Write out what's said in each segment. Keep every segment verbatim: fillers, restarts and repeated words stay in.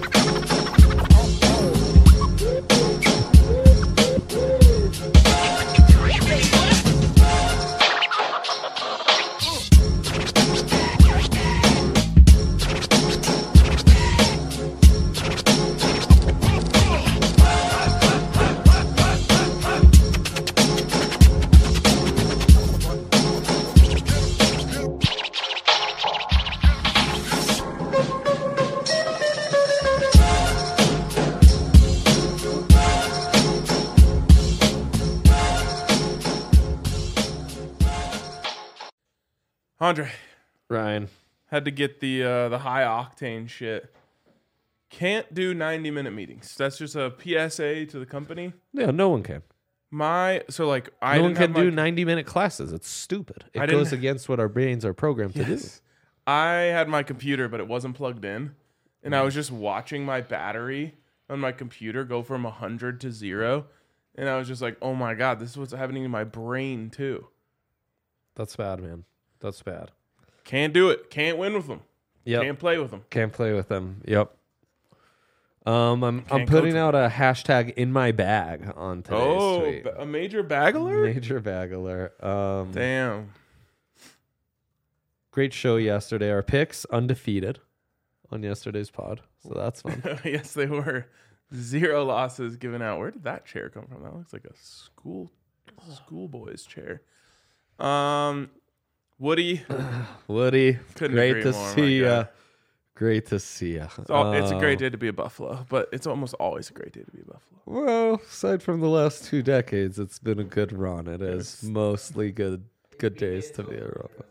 Andre, Ryan, had to get the uh, the high octane shit. Can't do ninety minute meetings. That's just a P S A to the company. yeah, no one can. My so like I no one didn't can have do my, ninety minute classes. It's stupid. It I didn't- goes against what our brains are programmed to do. Yes. I had my computer, but it wasn't plugged in, and I was just watching my battery on my computer go from a hundred to zero, and I was just like, "Oh my god, this is what's happening to my brain too." That's bad, man. That's bad. Can't do it. Can't win with them. Yep. Can't play with them. Can't play with them. Yep. Um, I'm I'm Can't putting coach out a hashtag in my bag on today's Oh, tweet. ba- a major bag alert? Major bag alert. Um, Damn. great show yesterday. Our picks undefeated on yesterday's pod, so that's fun. Yes, they were. Zero losses given out. Where did that chair come from? That looks like a school schoolboy's chair. Um, Woody, Woody, Couldn't great agree to more, my see guy. ya. Great to see ya. it's, all, it's a great Uh, day to be a Buffalo, but it's almost always a great day to be a Buffalo. Well, aside from the last two decades, it's been a good run. It is Yes. mostly good good days to be a Buffalo.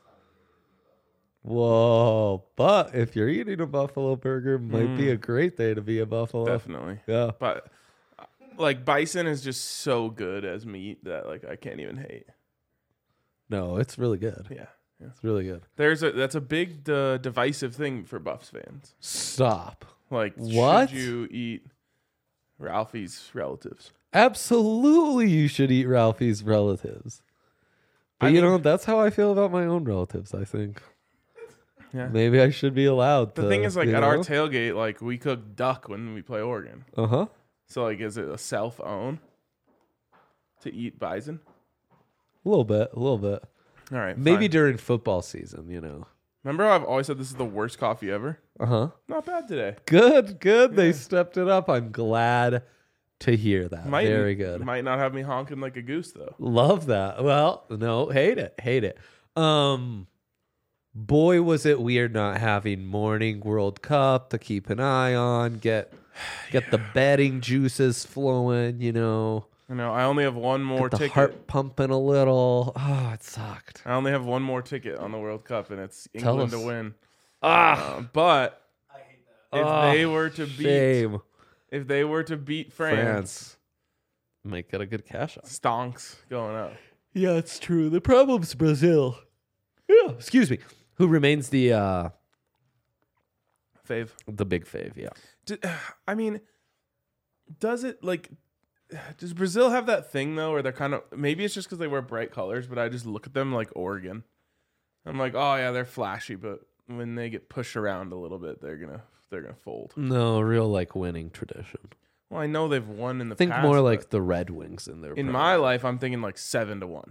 Whoa, but if you're eating a Buffalo burger, might be a great day to be a Buffalo. Definitely. Yeah. But uh, like bison is just so good as meat that like I can't even hate. No, it's really good. Yeah. Yeah. It's really good. There's a that's a big uh, divisive thing for Buffs fans. Stop. Like, What? should you eat Ralphie's relatives? Absolutely, you should eat Ralphie's relatives. But I you mean- know, that's how I feel about my own relatives, I think. Yeah. Maybe I should be allowed The to, thing is, like you at our know? tailgate, like we cook duck when we play Oregon. Uh-huh. So like, is it a self own to eat bison? A little bit, a little bit. All right, Maybe fine. during football season, you know. Remember how I've always said this is the worst coffee ever? Uh-huh. Not bad today. Good, good. They Yeah. stepped it up. I'm glad to hear that. Might, Very good. Might not have me honking like a goose though. Love that. Well, no, hate it. Hate it. Um boy, was it weird not having morning World Cup to keep an eye on, get get the betting juices flowing, you know. You know, I only have one more Get the ticket. heart pumping a little. Oh, it sucked. I only have one more ticket on the World Cup, and it's Tell England to us. win. Ah, Uh, but if oh, they were to beat, shame. if they were to beat France, France. Might get a good cash out. stonks going up. Yeah, it's true. The problem's Brazil. Yeah, excuse me. Who remains the uh Fave. the big fave? Yeah. Do, I mean, does it like? Does Brazil have that thing though, where they're kind of maybe it's just because they wear bright colors, but I just look at them like Oregon. I'm like, oh yeah, they're flashy, but when they get pushed around a little bit, they're gonna they're gonna fold. No, real like winning tradition. Well, I know they've won in the Think past. more but like the Red Wings in their in prime. my life, I'm thinking like seven to one.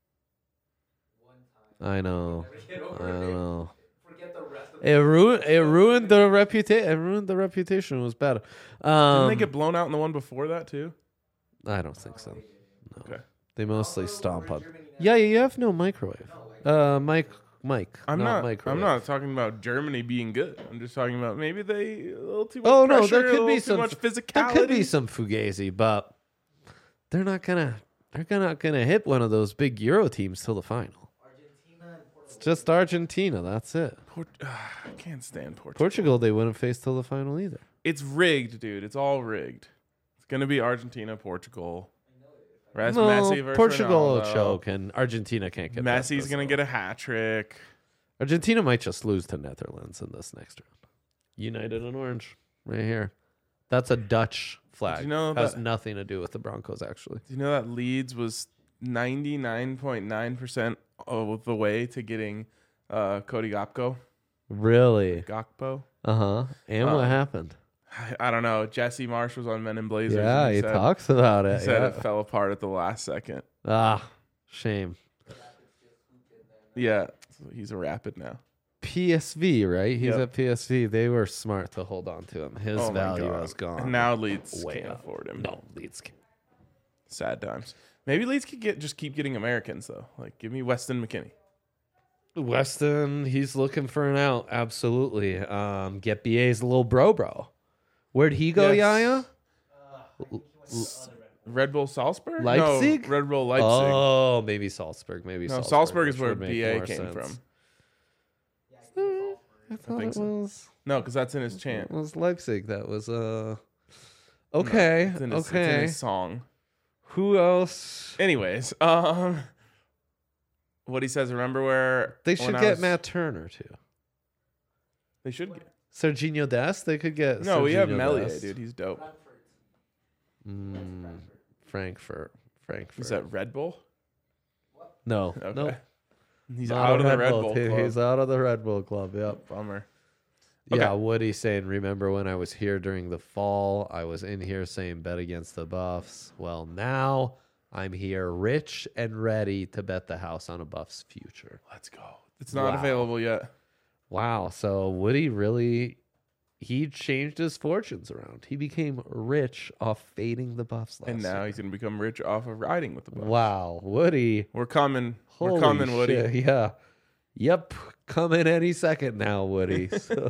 I know. I know. It ruined. It ruined the reputation. It ruined the reputation. It was bad. Um, Didn't they get blown out in the one before that too? I don't think so. No. Okay. They mostly stomp on. Yeah, you have no microwave. Uh, Mike, Mike. I'm not, not. microwave. I'm not talking about Germany being good. I'm just talking about maybe they a little too much Oh no, pressure, there a could little be too some much physicality. There could be some fugazi, but they're not gonna. They're not gonna hit one of those big Euro teams till the final. It's just Argentina. That's it. Port- I can't stand Portugal. Portugal, they wouldn't face till the final either. It's rigged, dude. It's all rigged. It's gonna be Argentina, Portugal. Ras- No, Messi versus Portugal will Ronaldo. choke, and Argentina can't get. past Messi's gonna Brazil. get a hat trick. Argentina might just lose to Netherlands in this next round. United in orange, right here. That's a Dutch flag. Did you know Has that- nothing to do with the Broncos, actually. Do you know that Leeds was ninety-nine point nine percent of the way to getting uh, Cody Gakpo? Really? Gakpo. Uh huh. And Uh, what happened? I, I don't know. Jesse Marsh was on Men in Blazers. Yeah, and he, said, talks about it. He said yeah. it fell apart at the last second. Ah, shame. Yeah, so he's a Rapid now. P S V, right? He's Yep. at P S V. They were smart to hold on to him. His Oh my value God. has gone. And now Leeds way can't up. afford him. No, Leeds can't. Sad times. Maybe Leeds could get just keep getting Americans though. Like give me Weston McKinney. Weston, he's looking for an out. Absolutely. Um, get B A's little bro, bro. Where'd he go, Yes. Yaya? Red Bull Salzburg? Leipzig? No, Red Bull Leipzig. Oh, maybe Salzburg. Maybe no, Salzburg, Salzburg is which where would make B A more came sense. from. I thought think it so. was. No, because that's in his chant. It was Leipzig. That was uh. Okay. No, it's in his, okay. It's in his song. Who else? Anyways, um, what he says. Remember where They when should I get was- Matt Turner too. They should get. Serginho Dest. They could get. No, we have Serginho Melier, Dest. dude. He's dope. Mm, Frankfurt. Frankfurt. Is that Red Bull? no? Okay. No. He's Not out a of the Red Bull. team. Club. He's out of the Red Bull club. Yep. Bummer. Yeah, Okay. Woody's saying, remember when I was here during the fall? I was in here saying bet against the Buffs. Well, now I'm here rich and ready to bet the house on a Buffs future. Let's go. It's not Wow. available yet. Wow. So Woody really, he changed his fortunes around. He became rich off fading the Buffs last And now year. he's gonna become rich off of riding with the Bucks. Wow. Woody. We're coming. Holy We're coming, Woody. shit, Yeah. Yep. Coming any second now, Woody. So.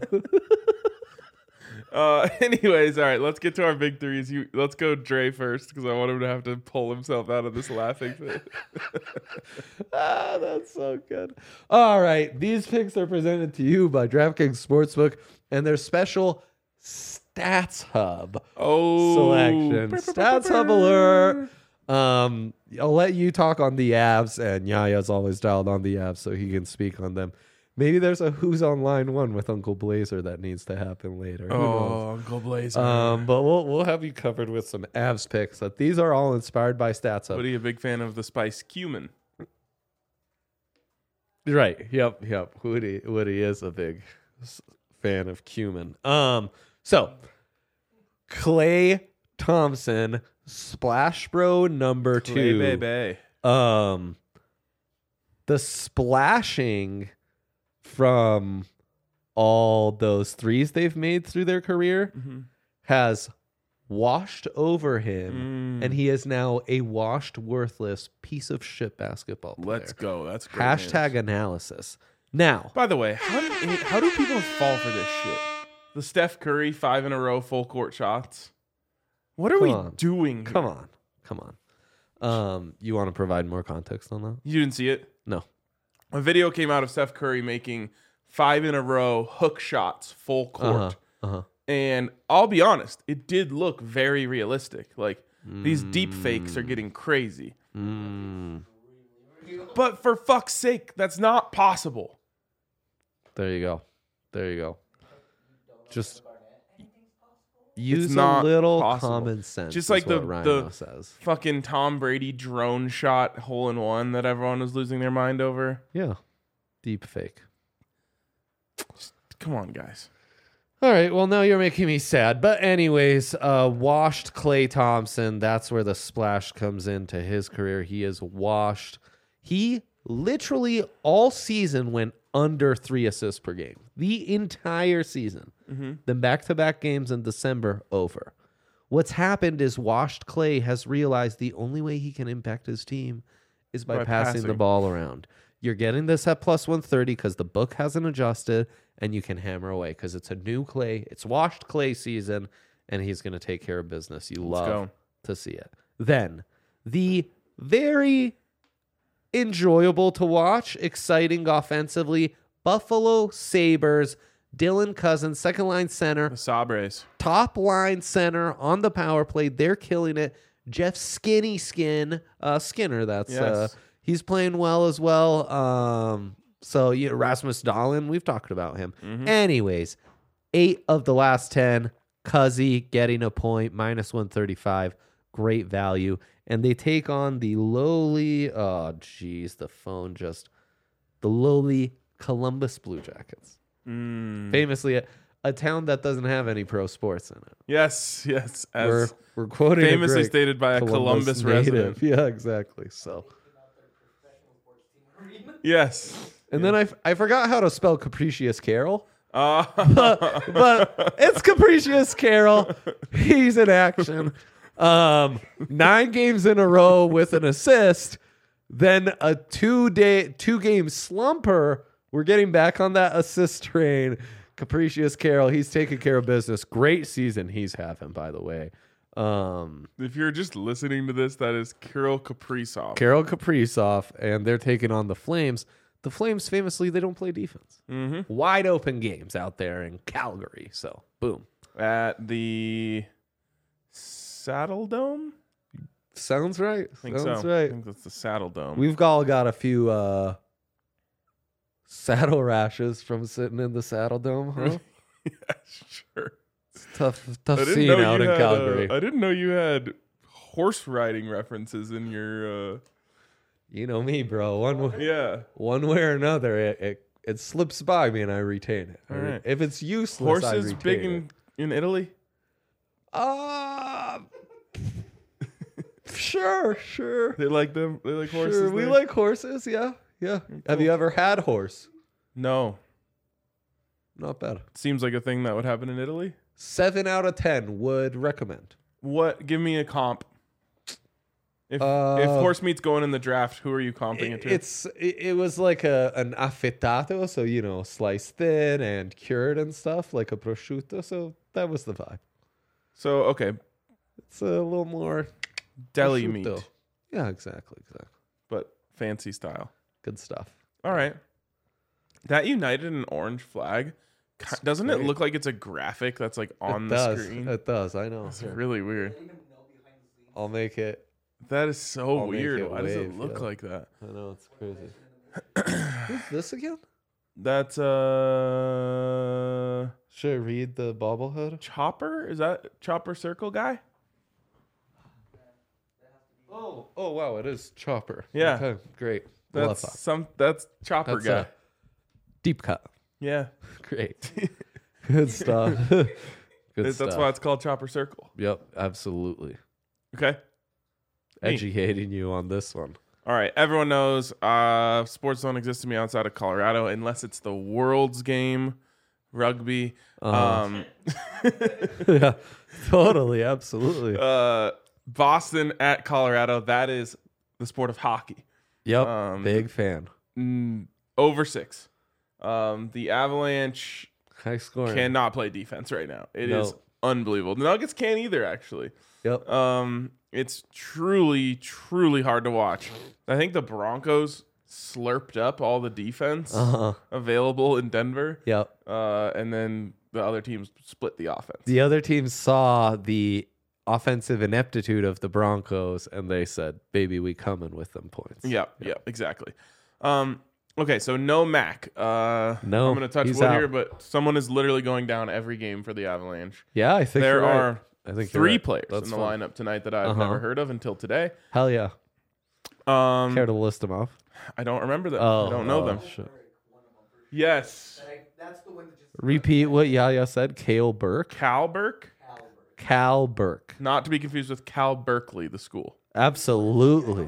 Uh, anyways, all right, let's get to our big threes. You, let's go Dre first because I want him to have to pull himself out of this laughing fit. Ah, that's so good. All right. These picks are presented to you by DraftKings Sportsbook and their special Stats Hub Oh, selection. Stats Hub alert. Um, I'll let you talk on the Avs, and Yaya's always dialed on the Avs so he can speak on them. Maybe there's a Who's on Line One with Uncle Blazer that needs to happen later. Who knows? Oh, Uncle Blazer. Um, but we'll we'll have you covered with some Avs picks. But these are all inspired by Stats Hub. What are you a big fan of the spice cumin? Right. Yep. Yep. Woody Woody is a big s- fan of cumin. Um. So, Clay Thompson, Splash Bro number Clay two. baby. Um. The splashing from all those threes they've made through their career Mhm. has washed over him, Mm. and he is now a washed, worthless piece of shit basketball player. Let's go. That's great. Hashtag news. analysis. Now, By the way, how do, how do people fall for this shit? The Steph Curry five in a row full court shots. What are Come we on. doing? come here? on, come on. Um, you want to provide more context on that? You didn't see it? No. A video came out of Steph Curry making five in a row hook shots full court. Uh-huh. Uh-huh. And I'll be honest, it did look very realistic. Like these deep fakes are getting crazy. Mm, But for fuck's sake, that's not possible. there you go. There you go. Just use a not little possible. common sense. Just is like the- what Rhino the- says. Fucking Tom Brady drone shot hole in one that everyone was losing their mind over. Yeah. Deep fake. Come on, guys. All right. Well, now you're making me sad. But anyways, uh, washed Clay Thompson. That's where the splash comes into his career. He is washed. He literally all season went under three assists per game. The entire season. Mm-hmm. Then back-to-back games in December, over. What's happened is washed Clay has realized the only way he can impact his team is by, By passing the passing. ball around. You're getting this at plus one thirty because the book hasn't adjusted, and you can hammer away because it's a new Clay. It's washed Clay season, and he's going to take care of business. You Let's love go. to see it. Then the very enjoyable to watch, exciting offensively, Buffalo Sabres, Dylan Cousins, second line center, The Sabres. top line center on the power play. They're killing it. Jeff Skinny Skin, uh, Skinner, that's uh, Yes. he's playing well as well. Um, so yeah, Rasmus Dahlin, we've talked about him. Mhm. Anyways, eight of the last ten. Cuzzy getting a point, minus one thirty-five. Great value. And they take on the lowly, oh, geez, the phone just, the lowly Columbus Blue Jackets. Mm. Famously, a town that doesn't have any pro sports in it. Yes, yes. As We're we're quoting a famously great stated by a Columbus, resident. native. Yeah, exactly. So, Yes. and then I, f- I forgot how to spell Capricious Carol, Uh, but, but it's Capricious Carol. He's in action. Um, nine games in a row with an assist. Then a two day, two game slumper. We're getting back on that assist train. Capricious Carol, he's taking care of business. Great season he's having, by the way. Um, if you're just listening to this, that is Kirill Kaprizov. Carol Kaprizov, and they're taking on the Flames. The Flames, famously, they don't play defense. Mm-hmm. Wide open games out there in Calgary. So, boom. At the Saddle Dome? Sounds right. I think Sounds so. right. I think that's the Saddle Dome. We've all got a few uh, saddle rashes from sitting in the Saddle Dome, huh? Yeah, sure. It's tough, tough I didn't scene know out you in had, Calgary. Uh, I didn't know you had horse riding references in your. Uh, You know me, bro. One way, yeah. one way or another, it, it it slips by me and I retain it. All right. If it's useless, I Horses retain big it. in, in Italy? Uh, sure, sure. They like them? They like horses? Sure, we there? like horses, yeah. Yeah. Have you ever had horse? No. Not bad. Seems like a thing that would happen in Italy. Seven out of ten would recommend. What? Give me a comp. If Uh, if horse meat's going in the draft, who are you comping it It, to? it's it, it was like a an affettato, so you know, sliced thin and cured and stuff, like a prosciutto. So that was the vibe. So okay, It's a little more deli prosciutto. meat, Yeah, exactly, exactly. but fancy style. Good stuff. All right. That United and orange flag, ki- doesn't it great. look like it's a graphic that's like on it the does. screen? It does. I know. It's really weird. I'll make it. That is so I'll make weird. it Why does it wave, look yeah. like that? I know it's crazy. Who's this again? That's uh Should I read the bobblehead? Chopper? Is that Chopper Circle guy? Oh, oh wow, it is Chopper. Yeah. Okay, great. Love That's that. some that's Chopper That's guy. a deep cut. Yeah. Great. Good stuff. Good That's stuff. why it's called Chopper Circle. Yep, absolutely. Okay. Me. Educating you on this one. All right. Everyone knows uh, sports don't exist to me outside of Colorado unless it's the World's game, rugby. Uh-huh. Um, Yeah, totally, absolutely. uh, Boston at Colorado. That is the sport of hockey. Yep, um, big fan. Mm, over six. Um, the Avalanche High scoring. cannot play defense right now. It is No. unbelievable. The Nuggets can't either, actually. Yep. Um, it's truly, truly hard to watch. I think the Broncos slurped up all the defense Uh-huh. available in Denver, Yep. uh, and then the other teams split the offense. The other team saw the offensive ineptitude of the Broncos, and they said, "Baby, we coming with them points." Yep, yep, exactly. Um, okay, so no Mac. Uh, No, I'm going to touch he's wood out. here, but someone is literally going down every game for the Avalanche. Yeah, I think There you're right. are I think you're three right. players That's in the fine. lineup tonight that I've Uh-huh. never heard of until today. Hell yeah. Um, Care to list them off? I don't remember them. Oh, I don't know oh, them. shit. Yes, That's the one that just Repeat what Yaya said. Kale Burke. Cal Burke, Albert. Cal Burke. not to be confused with Cal Berkeley, the school. Absolutely.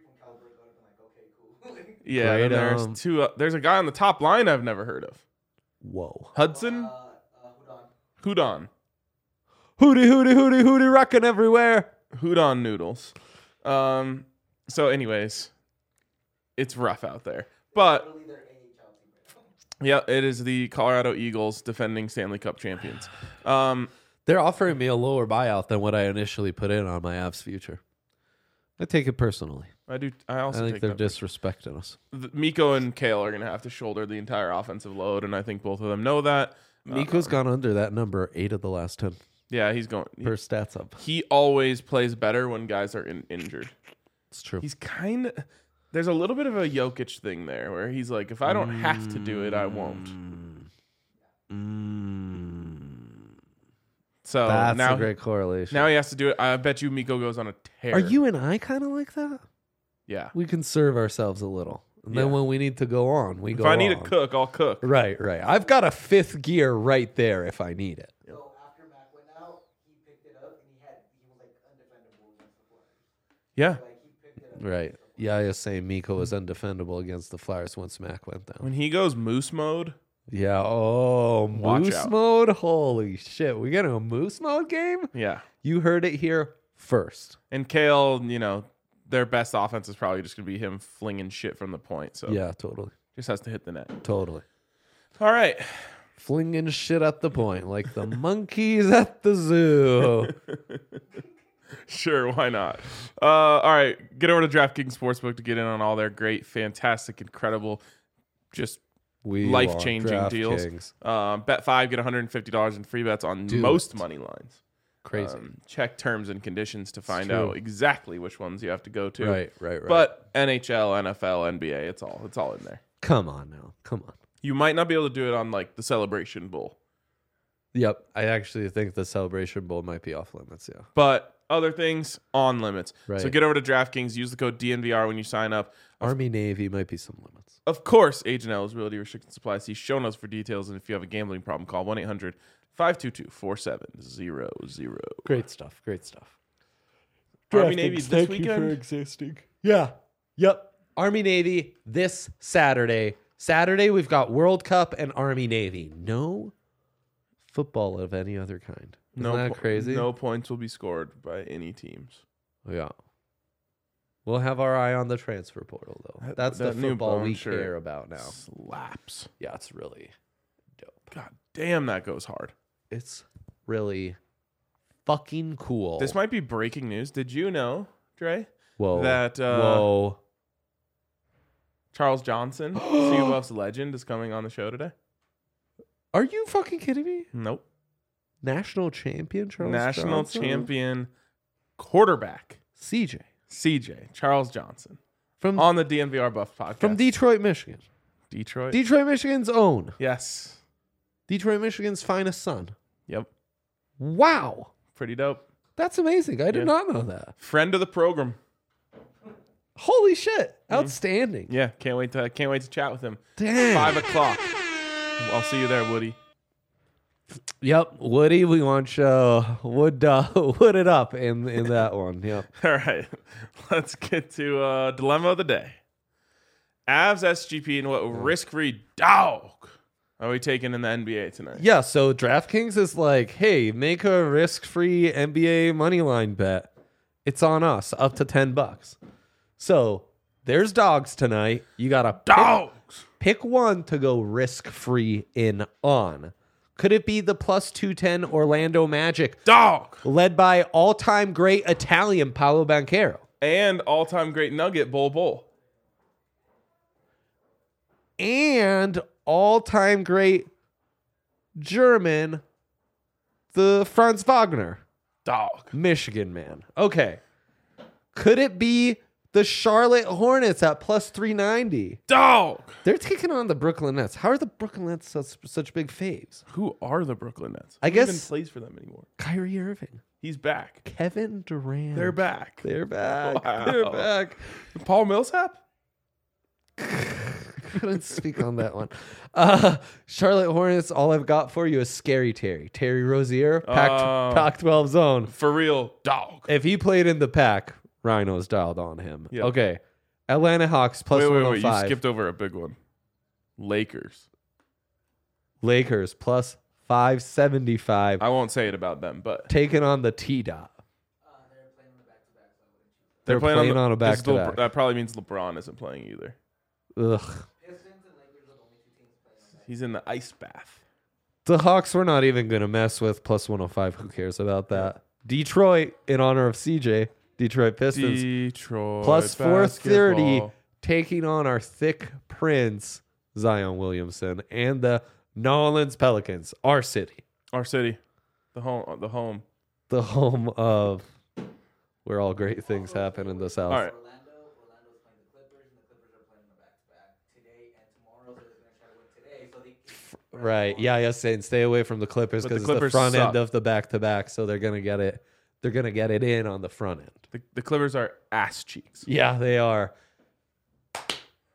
Yeah, Great, and there's um, two. Uh, there's a guy on the top line I've never heard of. Whoa. Hudson Uh, uh, hold on. Hudon. Hootie, hootie, hootie, hootie, rocking everywhere. Hudon noodles. Um. So, anyways, it's rough out there, but Literally their A H L team right now. yeah, it is the Colorado Eagles defending Stanley Cup champions. Um. They're offering me a lower buyout than what I initially put in on my Avs future. I take it personally. I do. I I also think think they're that disrespecting us. the- Miko and Kale are going to have to shoulder the entire offensive load, and I think both of them know that. Miko's Uh, gone under that number eight of the last ten yeah, he's going. He, per stats up. he always plays better when guys are in, injured. It's true. He's kind of. There's a little bit of a Jokic thing there, where he's like, if I don't have to do it, I won't. Mm. So That's now, a great correlation. now he has to do it. I bet you Miko goes on a tear. Are you and I kind of like that? Yeah. We conserve ourselves a little. And Yeah. then when we need to go on, we If go I need on. to cook, I'll cook. Right, right. I've got a fifth gear right there if I need it. So after Mac went out, he picked it up and he had he was like undefendable against the Flyers. Yeah. Like he picked it up. Right. Yeah, you're saying Miko was undefendable against the Flyers once Mac went down. When he goes moose mode, Yeah. Oh, Watch moose out. mode. Holy shit. We getting a moose mode game? yeah. You heard it here first. And Kale, you know, their best offense is probably just gonna be him flinging shit from the point. So Yeah, totally. just has to hit the net. Totally. All right. Flinging shit at the point like the monkeys at the zoo. Sure, why not? Uh, all right, get over to DraftKings Sportsbook to get in on all their great, fantastic, incredible, just We life-changing want deals. DraftKings. Um, bet five, get one hundred fifty dollars in free bets on Do most it. money lines. Crazy. Um, check terms and conditions to find true. out exactly which ones you have to go to. right, right, right. But N H L, N F L, N B A, it's all it's all in there. come on now. Come on. You might not be able to do it on like the Celebration Bowl, Yep. I actually think the Celebration Bowl might be off limits. Yeah. but other things on limits. So Right. get over to DraftKings, use the code D N V R when you sign up. Army Navy might be some limits. Of course, Agent Eligibility Restricted Supply. See show notes for details. And if you have a gambling problem, call one eight hundred five two two four seven zero zero. Great stuff. Great stuff. Army Navy this weekend? existing. Yeah. Yep. Army Navy this Saturday. Saturday we've got World Cup and Army Navy. No football of any other kind. Isn't No, that po- crazy? No points will be scored by any teams. Yeah. We'll have our eye on the transfer portal though. That- That's that the new football bone we shirt care about now. Slaps. Yeah, it's really dope. God damn, that goes hard. It's really fucking cool. This might be breaking news. Did you know, Dre, Whoa. that uh, Whoa. Charles Johnson, C U F's legend, is coming on the show today? Are you fucking kidding me? Nope. National champion Charles National Johnson? champion quarterback, C J. C J, Charles Johnson, From on the D N V R Buff podcast. from Detroit, Michigan. Detroit. Detroit, Michigan's own. yes. Detroit, Michigan's finest son. Yep. Wow. Pretty dope. That's amazing. I did Yeah. not know that. Friend of the program. Holy shit. Outstanding. Yeah, can't wait to can't wait to chat with him. Damn. Five o'clock. I'll see you there, Woody. Yep. Woody, we want show. Wood uh, wood it up in, in that one. Yep. All right, let's get to uh, dilemma of the day. Avs S G P and what risk-free dog are we taking in the N B A tonight? Yeah, so DraftKings is like, hey, make a risk-free N B A money line bet. It's on us, up to ten bucks. So there's dogs tonight. You gotta pick, Dogs. pick one to go risk-free in on. Could it be the plus two ten Orlando Magic, Dog. led by all-time great Italian Paolo Banchero? And all-time great Nugget Bull Bull. And all-time great German, the Franz Wagner, Dog. Michigan man. Okay. Could it be the Charlotte Hornets at plus three ninety? Dog. They're taking on the Brooklyn Nets. How are the Brooklyn Nets such, such big faves? Who are the Brooklyn Nets? I Who even guess- plays for them anymore. Kyrie Irving, He's back. Kevin Durant. They're back. They're back. Wow. They're back. Paul Millsap? Couldn't speak on that one. Uh, Charlotte Hornets, all I've got for you is Scary Terry. Terry Rozier, Pac, Oh. Pac twelve zone. For real, dog. If he played in the pack, Rhinos dialed on him. Yep. Okay. Atlanta Hawks plus wait, wait, wait. You 105. skipped over a big one. Lakers. Lakers plus five seventy-five. I won't say it about them, but Taking on the T-Dot. Uh, they're playing on the back-to-back, so I wouldn't choose They're playing, the- on a this is LeBron- back-to-back. That probably means LeBron isn't playing either. Ugh. that. Pistons and Lakers are the only two teams playing on that. He's in the ice bath. The Hawks we're not even going to mess with. Plus one oh five. Who cares about that? Detroit, in honor of C J. Detroit Pistons. Detroit. plus four thirty. basketball. Taking on our thick prince, Zion Williamson. And the New Orleans Pelicans. Our city. Our city. The home. The home. The home of where all great things happen in the South. All right. Orlando, Orlando's playing the Clippers, and the Clippers are playing the back-to-back today and tomorrow. So they're going to try to win today. So they can Right. Yeah, yeah, saying stay away from the Clippers But the because it's the Clippers front suck. end of the back to back, so they're gonna get it. They're gonna get it in on the front end. The, the Clippers are ass cheeks. Yeah, they are.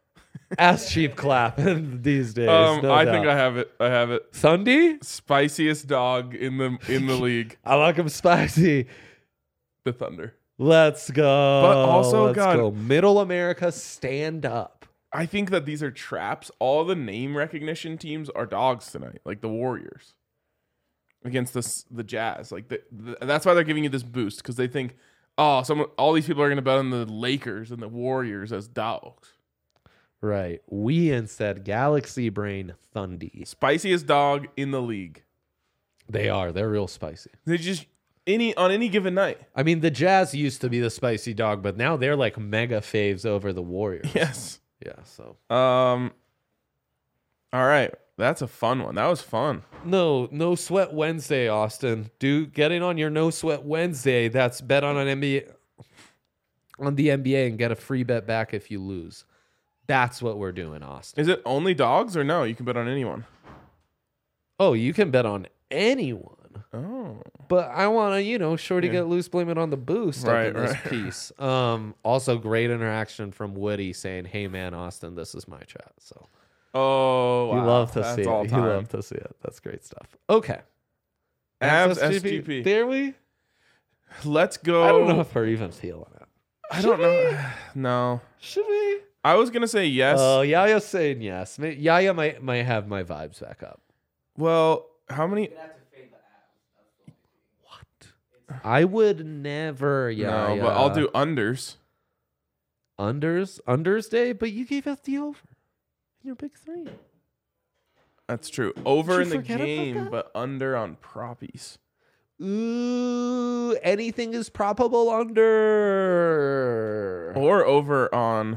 Ass cheap clapping these days. Um, no I doubt. think I have it. I have it. Thundy? Spiciest dog in the in the league. I like him spicy. The Thunder. Let's go. But also, Let's God- go. Middle America, stand up. I think that these are traps. All the name recognition teams are dogs tonight, like the Warriors against the the Jazz. Like the, the, that's why they're giving you this boost because they think, oh, someone, all these people are going to bet on the Lakers and the Warriors as dogs. Right. We instead Galaxy Brain Thundy. Spiciest dog in the league. They are. They're real spicy. They just any on any given night. I mean, the Jazz used to be the spicy dog, but now they're like mega faves over the Warriors. Yes. Yeah. So Um. All right, that's a fun one. That was fun. no, no sweat Wednesday, Austin. Do getting on your no sweat Wednesday. That's bet on an N B A on the N B A and get a free bet back if you lose. That's what we're doing, Austin. Is it only dogs or no? You can bet on anyone. Oh, you can bet on anyone. Oh. But I want to, you know, Shorty Yeah. get loose, blame it on the boost Right, up in this right. piece. Um, also, great interaction from Woody saying, "Hey, man, Austin, this is my chat." So Oh. Wow. you love to That's see all it. time. You love to see it. That's great stuff. Okay, Abs S S G P. There we. Let's go. I don't know if we're even feeling it. I don't know. No. Should we? I was gonna say yes. Oh, Yaya's saying yes. May- Yaya might might have my vibes back up. Well, how many? You're gonna have to fade the abs. That's the only thing. I would never. Yaya. No, but I'll do unders. unders. Unders day, but you gave us the over in your big three. That's true. Over Did in you the forget about game, that? but under on proppies. Ooh, anything is probable under. Or over on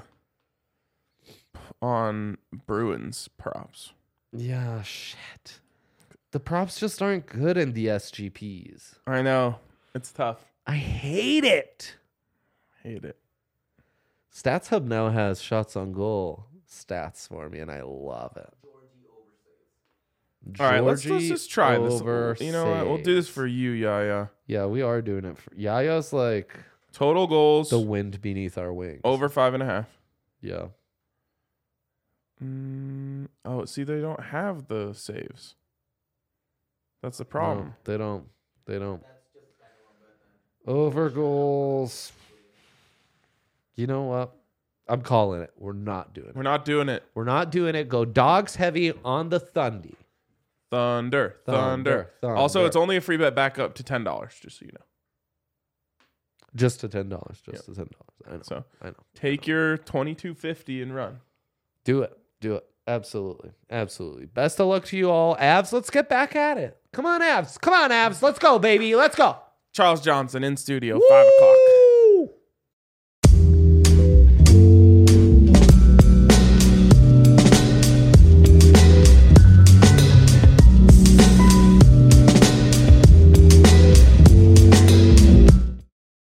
on Bruins props. Yeah, shit. The props just aren't good in the S G Ps. I know. It's tough. I hate it. Hate it. Stats Hub now has shots on goal stats for me, and I love it. All right, let's, let's Georgie just try this. over You know what? We'll do this saves. for you, Yaya. Yeah, we are doing it. For, Yaya's like Total goals the wind beneath our wings. over five and a half. Yeah. Mm, oh, see, they don't have the saves. That's the problem. No, they don't. They don't. Over goals. You know what? I'm calling it. We're not doing it. We're not doing it. We're not doing it. Go dogs heavy on the Thundy. Thunder, thunder. Thunder, Also, thunder. it's only a free bet back up to ten dollars, just so you know. Just to ten dollars. Just to ten dollars. I know. So I know. take your twenty-two fifty and run. Do it. Do it. Absolutely. Absolutely. Best of luck to you all. Avs, let's get back at it. Come on, Avs. Come on, Avs. Let's go, baby. Let's go. Charles Johnson in studio, five o'clock.